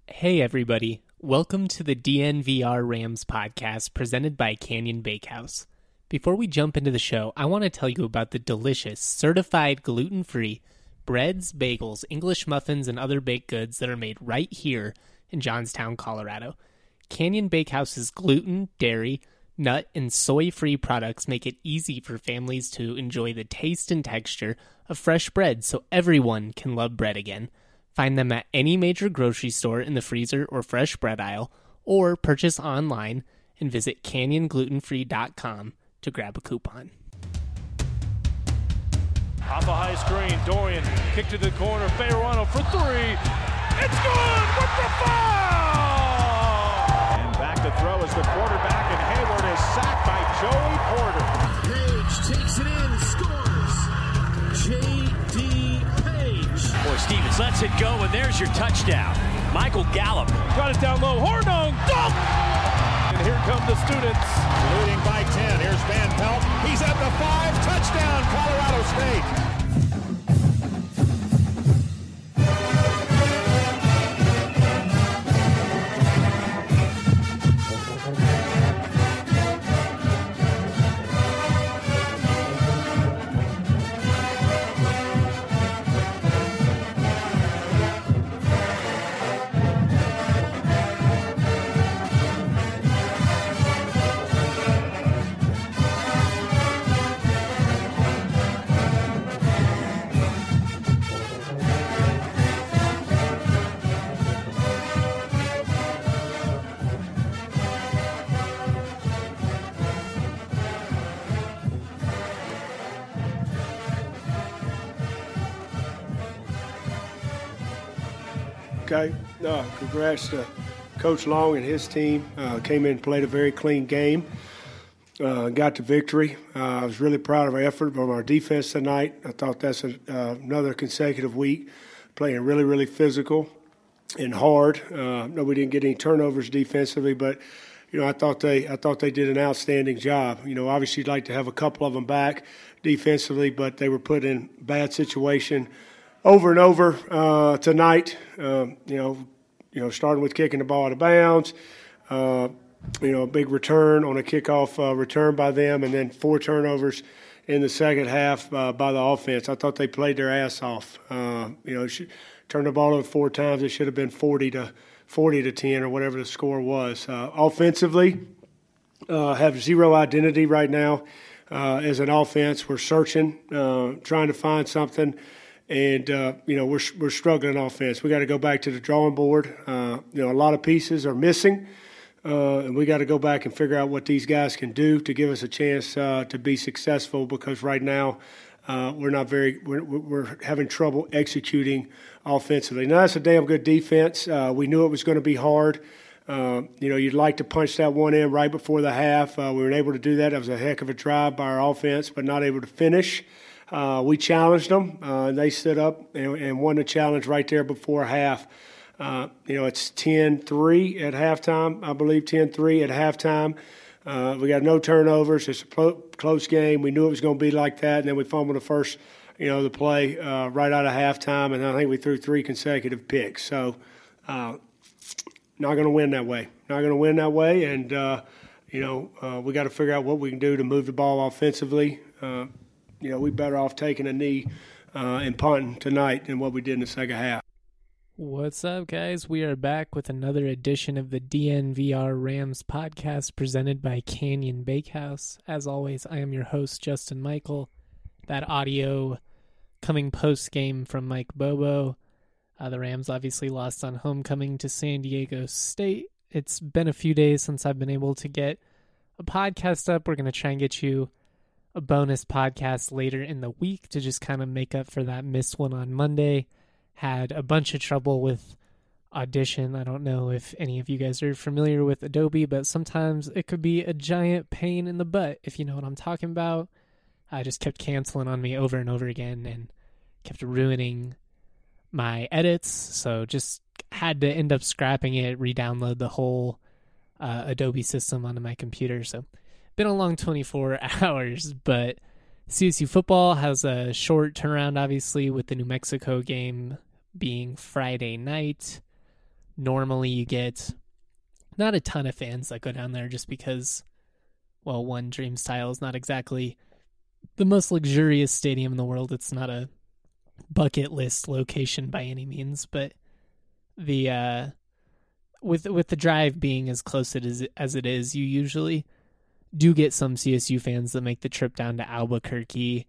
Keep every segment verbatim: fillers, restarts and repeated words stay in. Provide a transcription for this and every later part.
Hey everybody, welcome to the D N V R Rams podcast presented by Canyon Bakehouse. Before we jump into the show, I want to tell you about the delicious, certified gluten-free breads, bagels, English muffins, and other baked goods that are made right here in Johnstown, Colorado. Canyon Bakehouse's gluten, dairy, nut, and soy-free products make it easy for families to enjoy the taste and texture of fresh bread so everyone can love bread again. Find them at any major grocery store in the freezer or fresh bread aisle, or purchase online and visit canyon gluten free dot com to grab a coupon. Off a high screen, Dorian, kick to the corner, Fayerano for three. It's good with the foul! And back to throw is the quarterback, and Hayward is sacked by Joey Porter. Page takes it in, scores. J D Boy, Stevens lets it go, and there's your touchdown. Michael Gallup. Got it down low. Hornung, dunk! And here come the students. Leading by ten. Here's Van Pelt. He's at the five. Touchdown, Colorado State. Okay, uh, congrats to Coach Long and his team. Uh, came in and played a very clean game. Uh, got the victory. Uh, I was really proud of our effort from our defense tonight. I thought that's a, uh, another consecutive week playing really, really physical and hard. Uh, no, we didn't get any turnovers defensively, but you know, I thought they, I thought they did an outstanding job. You know, obviously, you'd like to have a couple of them back defensively, but they were put in bad situation over and over uh, tonight. Um, you know, you know, starting with kicking the ball out of bounds. Uh, you know, a big return on a kickoff uh, return by them, and then four turnovers in the second half uh, by the offense. I thought they played their ass off. Uh, you know, sh- turned the ball over four times. It should have been forty to forty to ten or whatever the score was. Uh, offensively, uh, have zero identity right now uh, as an offense. We're searching, uh, trying to find something. And, uh, you know, we're we're struggling offense. We got to go back to the drawing board. Uh, you know, a lot of pieces are missing, uh, and we got to go back and figure out what these guys can do to give us a chance uh, to be successful, because right now uh, we're not very we're, – we're having trouble executing offensively. Now, that's a damn good defense. Uh, we knew it was going to be hard. Uh, you know, you'd like to punch that one in right before the half. Uh, we were able to do that. It was a heck of a drive by our offense, but not able to finish. Uh, we challenged them, uh, and they stood up and, and won the challenge right there before half. Uh, you know, it's ten three at halftime, I believe ten three at halftime. Uh, we got no turnovers. It's a clo- close game. We knew it was going to be like that, and then we fumbled the first, you know, the play uh, right out of halftime, and I think we threw three consecutive picks. So uh, not going to win that way. Not going to win that way, and, uh, you know, uh, we got to figure out what we can do to move the ball offensively. Uh, You know, we better off taking a knee uh, and punting tonight than what we did in the second half. What's up, guys? We are back with another edition of the D N V R Rams podcast presented by Canyon Bakehouse. As always, I am your host, Justin Michael. That audio coming post-game from Mike Bobo. Uh, the Rams obviously lost on homecoming to San Diego State. It's been a few days since I've been able to get a podcast up. We're going to try and get you a bonus podcast later in the week to just kind of make up for that missed one on Monday. Had a bunch of trouble with Audition. I don't know if any of you guys are familiar with Adobe, but sometimes it could be a giant pain in the butt, if you know what I'm talking about. I just kept canceling on me over and over again and kept ruining my edits, so just had to end up scrapping it, re-download the whole uh, Adobe system onto my computer. So been a long twenty-four hours, but C S U football has a short turnaround, obviously, with the New Mexico game being Friday night. normally you get not a ton of fans that go down there just because, well, one, Dream Style is not exactly the most luxurious stadium in the world. It's not a bucket list location by any means, but the uh, with with the drive being as close it is as it is, you usually do get some C S U fans that make the trip down to Albuquerque.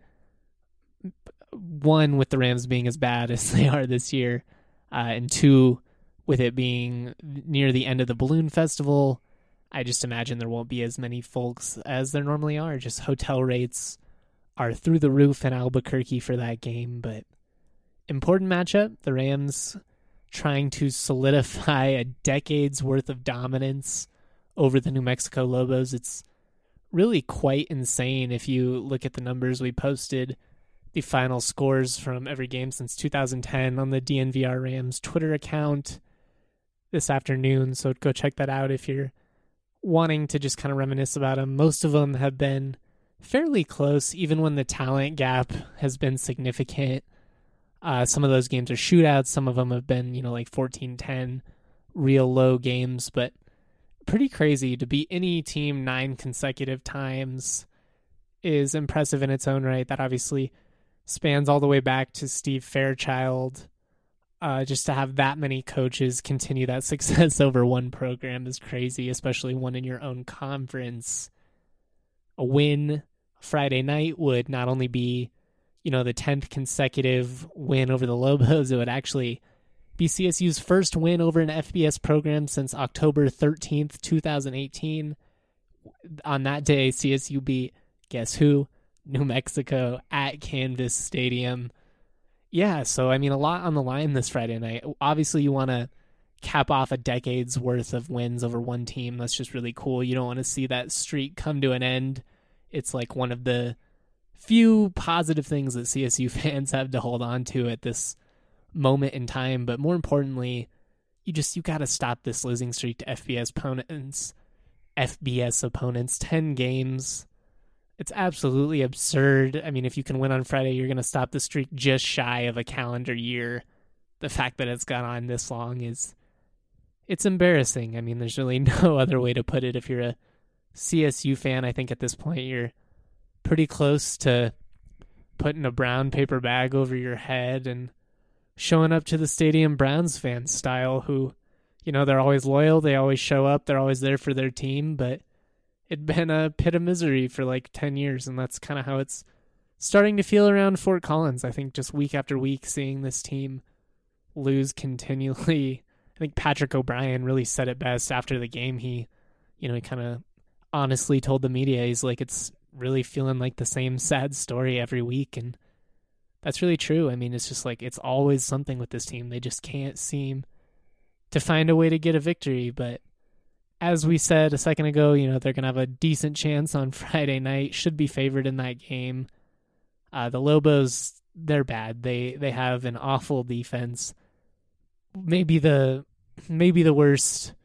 One, with the Rams being as bad as they are this year, uh, and two, with it being near the end of the Balloon Festival, I just imagine there won't be as many folks as there normally are. Just hotel rates are through the roof in Albuquerque for that game, but important matchup. The Rams trying to solidify a decade's worth of dominance over the New Mexico Lobos. It's really quite insane if you look at the numbers we posted, the final scores from every game since two thousand ten on the D N V R Rams Twitter account this afternoon. So go check that out if you're wanting to just kind of reminisce about them. Most of them have been fairly close, even when the talent gap has been significant. Uh, some of those games are shootouts. Some of them have been, you know, like fourteen ten, real low games, but pretty crazy. To beat any team nine consecutive times is impressive in its own right. That obviously spans all the way back to Steve Fairchild. Uh, just to have that many coaches continue that success over one program is crazy, especially one in your own conference. A win Friday night would not only be, you know, the tenth consecutive win over the Lobos, it would actually be C S U's first win over an F B S program since October thirteenth, twenty eighteen. On that day, C S U beat, guess who? New Mexico at Canvas Stadium. Yeah, so I mean, a lot on the line this Friday night. Obviously, you want to cap off a decade's worth of wins over one team. That's just really cool. You don't want to see that streak come to an end. It's like one of the few positive things that C S U fans have to hold on to at this moment in time. But more importantly, you just, you got to stop this losing streak to F B S opponents. F B S opponents, ten games. It's absolutely absurd. I mean, if you can win on Friday, you're going to stop the streak just shy of a calendar year. The fact that it's gone on this long is, it's embarrassing. I mean, there's really no other way to put it. If you're a C S U fan, I think at this point you're pretty close to putting a brown paper bag over your head and showing up to the stadium Browns fan style, who, you know, they're always loyal. They always show up. They're always there for their team, but it'd been a pit of misery for like ten years, and that's kind of how it's starting to feel around Fort Collins. I think just week after week, seeing this team lose continually. I think Patrick O'Brien really said it best after the game. He, you know, he kind of honestly told the media, he's like, it's really feeling like the same sad story every week, and that's really true. I mean, it's just like, it's always something with this team. They just can't seem to find a way to get a victory, but as we said a second ago, you know, they're going to have a decent chance on Friday night, should be favored in that game. Uh, the Lobos, they're bad. They they have an awful defense. Maybe the maybe the worst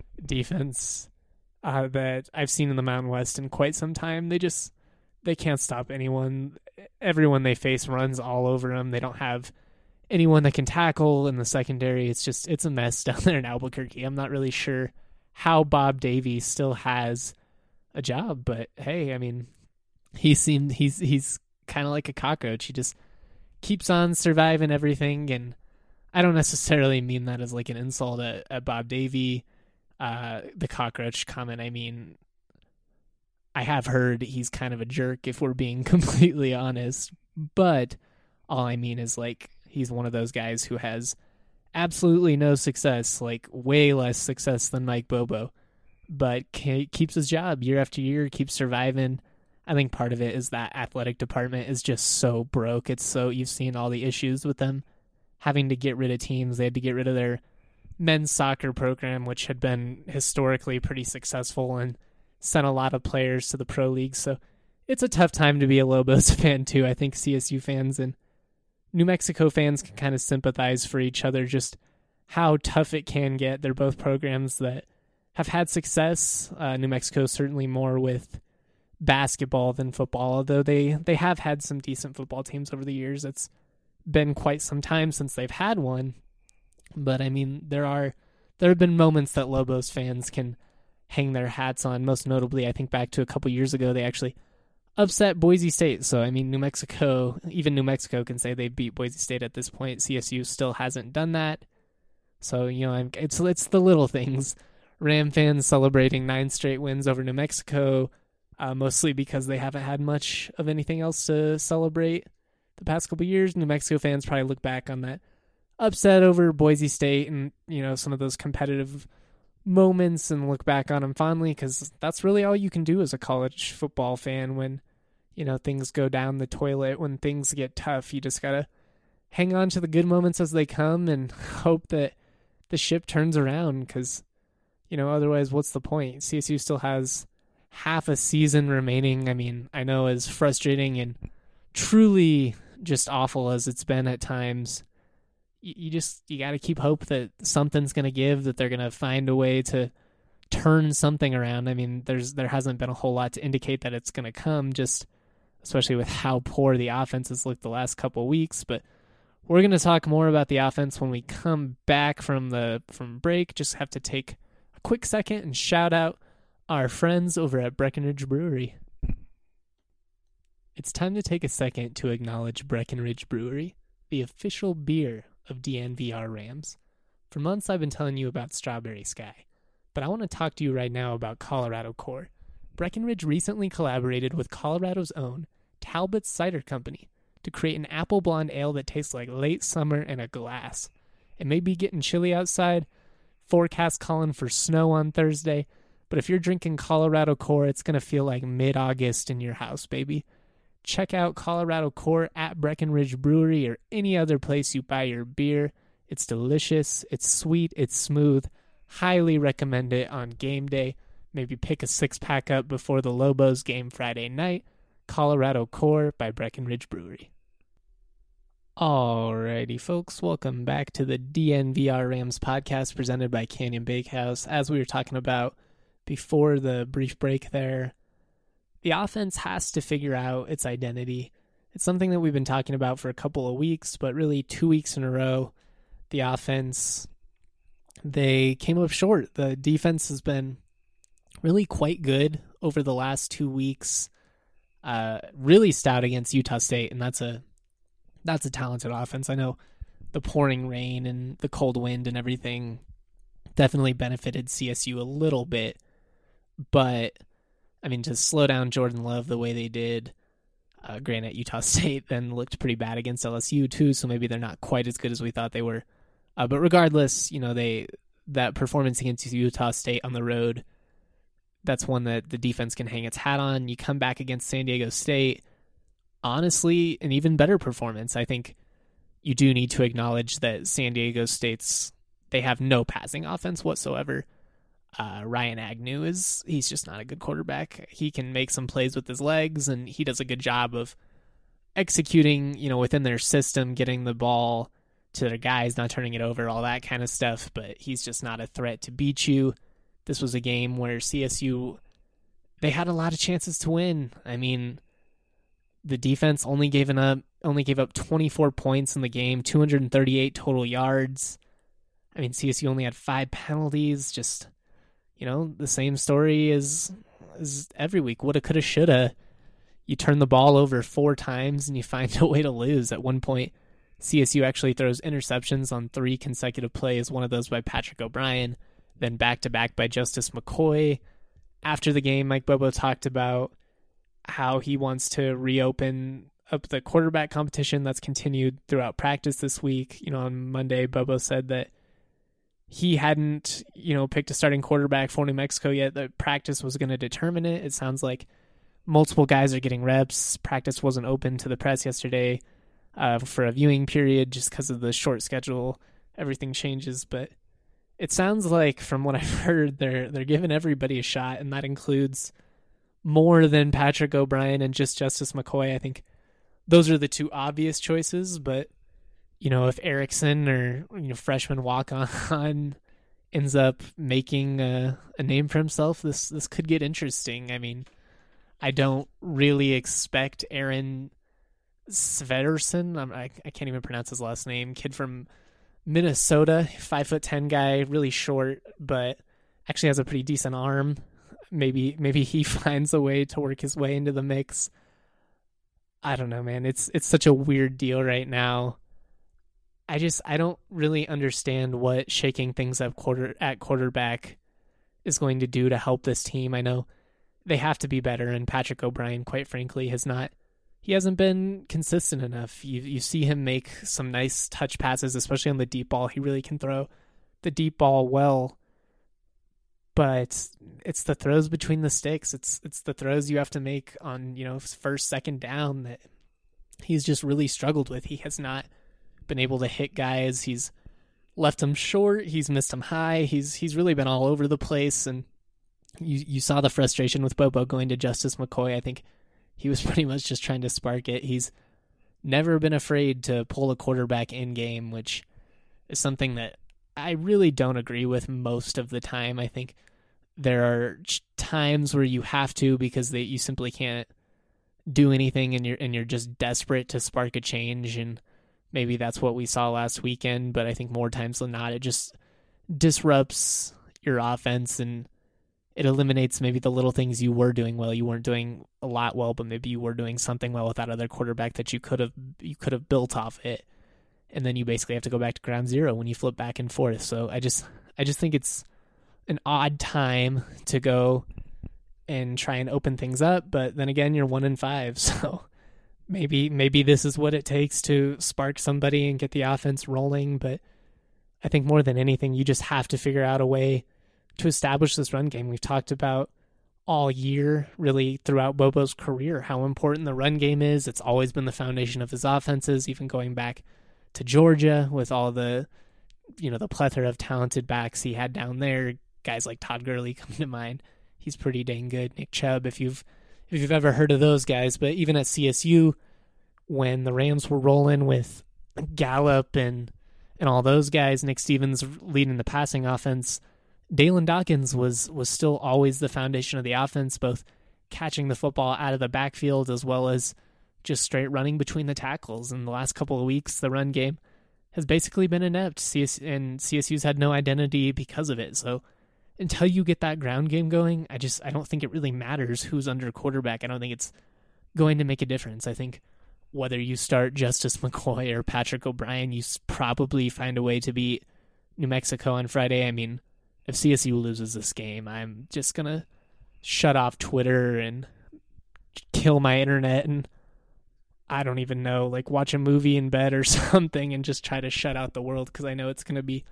defense uh, that I've seen in the Mountain West in quite some time. They just, they can't stop anyone. Everyone they face runs all over them. They don't have anyone that can tackle in the secondary. It's just, it's a mess down there in Albuquerque. I'm not really sure how Bob Davie still has a job, but hey, I mean, he seemed, he's, he's kind of like a cockroach. He just keeps on surviving everything. And I don't necessarily mean that as like an insult at, at Bob Davie, uh, the cockroach comment. I mean, I have heard he's kind of a jerk, if we're being completely honest, but all I mean is like, he's one of those guys who has absolutely no success, like way less success than Mike Bobo, but keeps his job year after year, keeps surviving. I think part of it is that athletic department is just so broke. It's so, you've seen all the issues with them having to get rid of teams. They had to get rid of their men's soccer program, which had been historically pretty successful and sent a lot of players to the pro league. So it's a tough time to be a Lobos fan too. I think C S U fans and New Mexico fans can kind of sympathize for each other, just how tough it can get. They're both programs that have had success. Uh, New Mexico certainly more with basketball than football, although they, they have had some decent football teams over the years. It's been quite some time since they've had one. But, I mean, there are there have been moments that Lobos fans can hang their hats on. Most notably, I think back to a couple years ago, they actually upset Boise State. So, I mean, New Mexico, even New Mexico can say they beat Boise State at this point. C S U still hasn't done that. So, you know, it's it's the little things. Ram fans celebrating nine straight wins over New Mexico, uh, mostly because they haven't had much of anything else to celebrate the past couple years. New Mexico fans probably look back on that upset over Boise State and, you know, some of those competitive moments and look back on them fondly, because that's really all you can do as a college football fan when, you know, things go down the toilet, when things get tough. You just gotta hang on to the good moments as they come and hope that the ship turns around, because, you know, otherwise what's the point? C S U still has half a season remaining. I mean, I know as frustrating and truly just awful as it's been at times, you just, you got to keep hope that something's going to give, that they're going to find a way to turn something around. I mean, there's, there hasn't been a whole lot to indicate that it's going to come, just especially with how poor the offense has looked the last couple of weeks. But we're going to talk more about the offense when we come back from the, from break. Just have to take a quick second and shout out our friends over at Breckenridge Brewery. It's time to take a second to acknowledge Breckenridge Brewery, the official beer of D N V R Rams. For months I've been telling you about Strawberry Sky, but I want to talk to you right now about Colorado Core. Breckenridge recently collaborated with Colorado's own Talbot's Cider Company to create an apple blonde ale that tastes like late summer in a glass. It may be getting chilly outside, forecast calling for snow on Thursday, but if you're drinking Colorado Core, it's going to feel like mid-August in your house, baby. Check out Colorado Core at Breckenridge Brewery or any other place you buy your beer. It's delicious, it's sweet, it's smooth. Highly recommend it on game day. Maybe pick a six-pack up before the Lobos game Friday night. Colorado Core by Breckenridge Brewery. Alrighty, folks, welcome back to the D N V R Rams podcast presented by Canyon Bakehouse. As we were talking about before the brief break there, the offense has to figure out its identity. It's something that we've been talking about for a couple of weeks, but really two weeks in a row, the offense, they came up short. The defense has been really quite good over the last two weeks. Uh, really stout against Utah State, and that's a that's a talented offense. I know the pouring rain and the cold wind and everything definitely benefited C S U a little bit, but I mean, to slow down Jordan Love the way they did, uh, granted, Utah State then looked pretty bad against L S U too, so maybe they're not quite as good as we thought they were. Uh, but regardless, you know, they that performance against Utah State on the road, that's one that the defense can hang its hat on. You come back against San Diego State, honestly, an even better performance. I think you do need to acknowledge that San Diego State's, they have no passing offense whatsoever. Uh, Ryan Agnew is, he's just not a good quarterback. He can make some plays with his legs, and he does a good job of executing, you know, within their system, getting the ball to their guys, not turning it over, all that kind of stuff, but he's just not a threat to beat you. This was a game where C S U, they had a lot of chances to win. I mean, the defense only gave up, only gave up twenty-four points in the game, two hundred thirty-eight total yards. I mean, C S U only had five penalties, just, you know, the same story as, as every week. Woulda, coulda, shoulda. You turn the ball over four times and you find a way to lose. At one point, C S U actually throws interceptions on three consecutive plays, one of those by Patrick O'Brien, then back-to-back by Justice McCoy. After the game, Mike Bobo talked about how he wants to reopen up the quarterback competition that's continued throughout practice this week. You know, on Monday, Bobo said that he hadn't, you know, picked a starting quarterback for New Mexico yet. The practice was going to determine it. It sounds like multiple guys are getting reps. Practice wasn't open to the press yesterday uh, for a viewing period just because of the short schedule. Everything changes, but it sounds like, from what I've heard, they're they're giving everybody a shot, and that includes more than Patrick O'Brien and just Justice McCoy. I think those are the two obvious choices, but you know, if Erickson or, you know, freshman walk-on ends up making a, a name for himself, this this could get interesting. I mean, I don't really expect Aaron Svetterson, I, I can't even pronounce his last name, kid from Minnesota, five foot ten guy, really short, but actually has a pretty decent arm. Maybe maybe he finds a way to work his way into the mix. I don't know, man. It's it's such a weird deal right now. I just I don't really understand what shaking things up quarter at quarterback is going to do to help this team. I know they have to be better, and Patrick O'Brien, quite frankly, has not. He hasn't been consistent enough. You you see him make some nice touch passes, especially on the deep ball. He really can throw the deep ball well, but it's the throws between the sticks. It's it's the throws you have to make on, you know, first, second down that he's just really struggled with. He has not been able to hit guys. He's left them short. He's missed them high. He's he's really been all over the place. And you you saw the frustration with Bobo going to Justice McCoy. I think he was pretty much just trying to spark it. He's never been afraid to pull a quarterback in game, which is something that I really don't agree with most of the time. I think there are times where you have to because they, you simply can't do anything, and you're and you're just desperate to spark a change. And maybe that's what we saw last weekend. But I think more times than not, it just disrupts your offense, and it eliminates maybe the little things you were doing well. You weren't doing a lot well, but maybe you were doing something well with that other quarterback that you could have you could have built off it. And then you basically have to go back to ground zero when you flip back and forth. So I just I just think it's an odd time to go and try and open things up. But then again, you're one and five, so maybe maybe this is what it takes to spark somebody and get the offense rolling. But I think more than anything, you just have to figure out a way to establish this run game. We've talked about all year, really throughout Bobo's career, how important the run game is. It's always been the foundation of his offenses, even going back to Georgia with all the, you know, the plethora of talented backs he had down there. Guys like Todd Gurley come to mind. He's pretty dang good. Nick Chubb, if you've if you've ever heard of those guys. But even at C S U, when the Rams were rolling with Gallup and and all those guys, Nick Stevens leading the passing offense, Dalen Dawkins was was still always the foundation of the offense, both catching the football out of the backfield as well as just straight running between the tackles. In the last couple of weeks, the run game has basically been inept, C S, and C S U's had no identity because of it. So until you get that ground game going, I just I don't think it really matters who's under quarterback. I don't think it's going to make a difference. I think whether you start Justice McCoy or Patrick O'Brien, you probably find a way to beat New Mexico on Friday. I mean, if C S U loses this game, I'm just going to shut off Twitter and kill my internet and I don't even know, like watch a movie in bed or something and just try to shut out the world, because I know it's going to be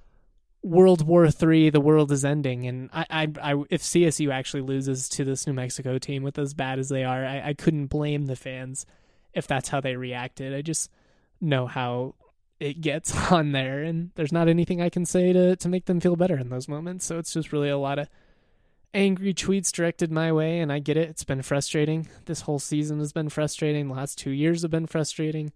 World War Three. The world is ending. And I, I, I, if C S U actually loses to this New Mexico team with as bad as they are, I, I couldn't blame the fans if that's how they reacted. I just know how it gets on there, and there's not anything I can say to, to make them feel better in those moments. So it's just really a lot of angry tweets directed my way, and I get it. It's been frustrating. This whole season has been frustrating. The last two years have been frustrating.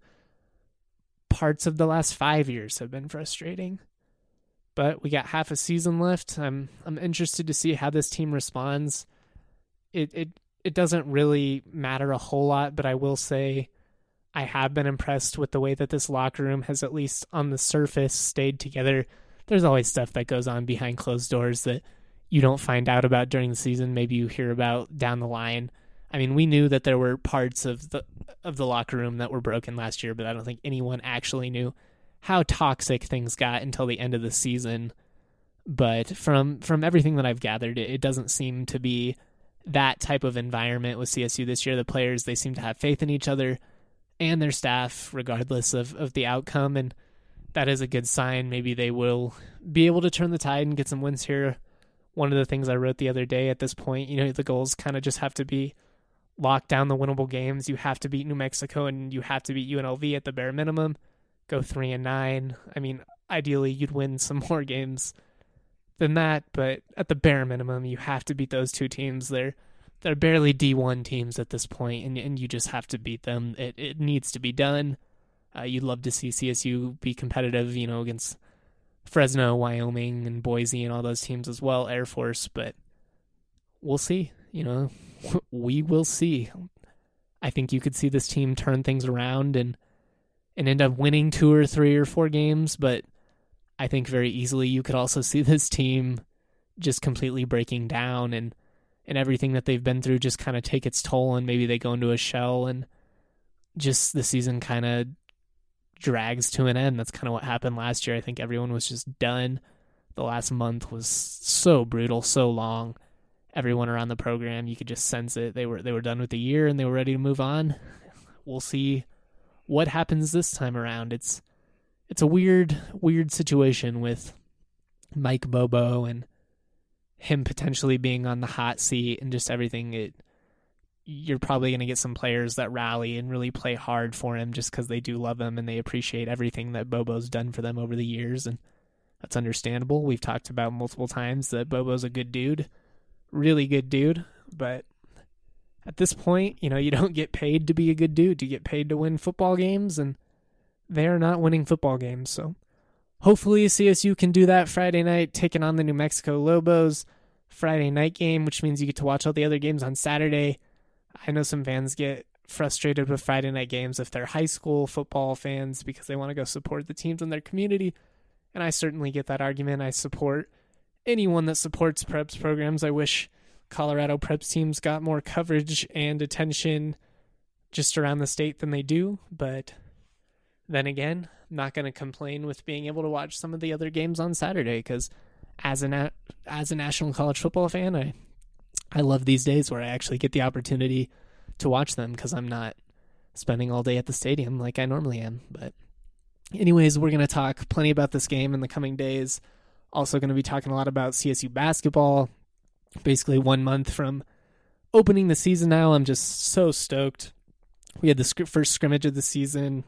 Parts of the last five years have been frustrating. But we got half a season left. I'm I'm interested to see how this team responds. It it it doesn't really matter a whole lot, but I will say I have been impressed with the way that this locker room has, at least on the surface, stayed together. There's always stuff that goes on behind closed doors that you don't find out about during the season. Maybe you hear about down the line. I mean, we knew that there were parts of the of the locker room that were broken last year, but I don't think anyone actually knew how toxic things got until the end of the season. But from from everything that I've gathered, it, it doesn't seem to be that type of environment with C S U this year. The players, they seem to have faith in each other and their staff, regardless of, of the outcome, and that is a good sign. Maybe they will be able to turn the tide and get some wins here. One of the things I wrote the other day, at this point, you know, the goals kind of just have to be lock down the winnable games. You have to beat New Mexico and you have to beat U N L V at the bare minimum. Go three and nine. I mean, ideally you'd win some more games than that, but at the bare minimum, you have to beat those two teams. They're they're barely D one teams at this point, and and you just have to beat them. It it needs to be done. Uh, you'd love to see C S U be competitive, you know, against Fresno, Wyoming, and Boise and all those teams as well, Air Force, but we'll see. You know, we will see. I think you could see this team turn things around and and end up winning two or three or four games, but I think very easily you could also see this team just completely breaking down and, and everything that they've been through just kind of take its toll, and maybe they go into a shell and just the season kind of drags to an end. That's kind of what happened last year. I think everyone was just done. The last month was so brutal, so long. Everyone around the program, you could just sense it. They were they were done with the year and they were ready to move on. We'll see what happens this time around. It's it's a weird, weird situation with Mike Bobo and him potentially being on the hot seat and just everything. It you're probably going to get some players that rally and really play hard for him just because they do love him and they appreciate everything that Bobo's done for them over the years, and that's understandable. We've talked about multiple times that Bobo's a good dude, really good dude, but at this point, you know, you don't get paid to be a good dude. You get paid to win football games, and they're not winning football games. So hopefully C S U can do that Friday night, taking on the New Mexico Lobos. Friday night game, which means you get to watch all the other games on Saturday. I know some fans get frustrated with Friday night games if they're high school football fans because they want to go support the teams in their community. And I certainly get that argument. I support anyone that supports preps programs. I wish Colorado preps teams got more coverage and attention just around the state than they do. But then again, I'm not going to complain with being able to watch some of the other games on Saturday because as a, na- as a national college football fan, I I love these days where I actually get the opportunity to watch them because I'm not spending all day at the stadium like I normally am. But anyways, we're going to talk plenty about this game in the coming days. Also going to be talking a lot about C S U basketball. Basically one month from opening the season now. I'm just so stoked. We had the sc- first scrimmage of the season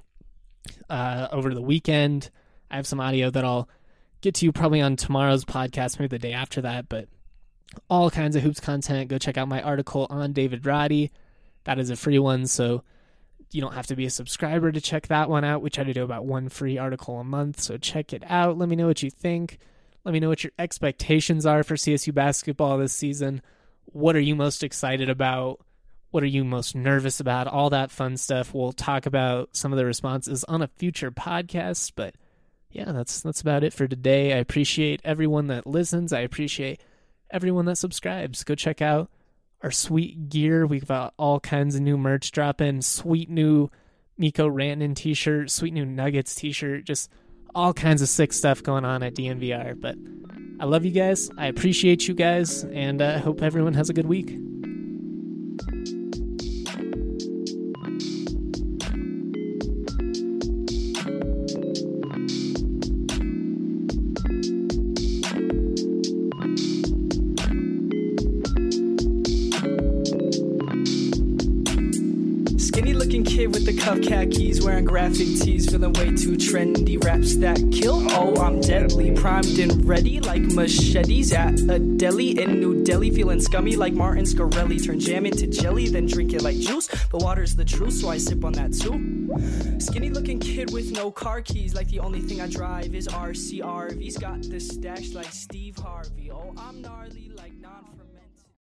uh, over the weekend. I have some audio that I'll get to you probably on tomorrow's podcast, maybe the day after that, but all kinds of hoops content. Go check out my article on David Roddy. That is a free one, so you don't have to be a subscriber to check that one out. We try to do about one free article a month, so check it out. Let me know what you think. Let me know what your expectations are for C S U basketball this season. What are you most excited about? What are you most nervous about? All that fun stuff. We'll talk about some of the responses on a future podcast, but yeah, that's that's about it for today. I appreciate everyone that listens. I appreciate everyone that subscribes. Go check out our sweet gear. We've got all kinds of new merch dropping. Sweet new Miko Rantanen t-shirt, sweet new Nuggets t-shirt, just all kinds of sick stuff going on at D N V R. But I love you guys. I appreciate you guys, and I uh, hope everyone has a good week. Kid with the cuff khakis, wearing graphic tees, feeling way too trendy. Raps that kill, oh I'm deadly, primed and ready like machetes at a deli in New Delhi. Feeling scummy like Martin Scarelli, turn jam into jelly, then drink it like juice. The water's the truth, so I sip on that too. Skinny looking kid with no car keys, like the only thing I drive is R C R V's. Got the stash like Steve Harvey, oh I'm gnarly.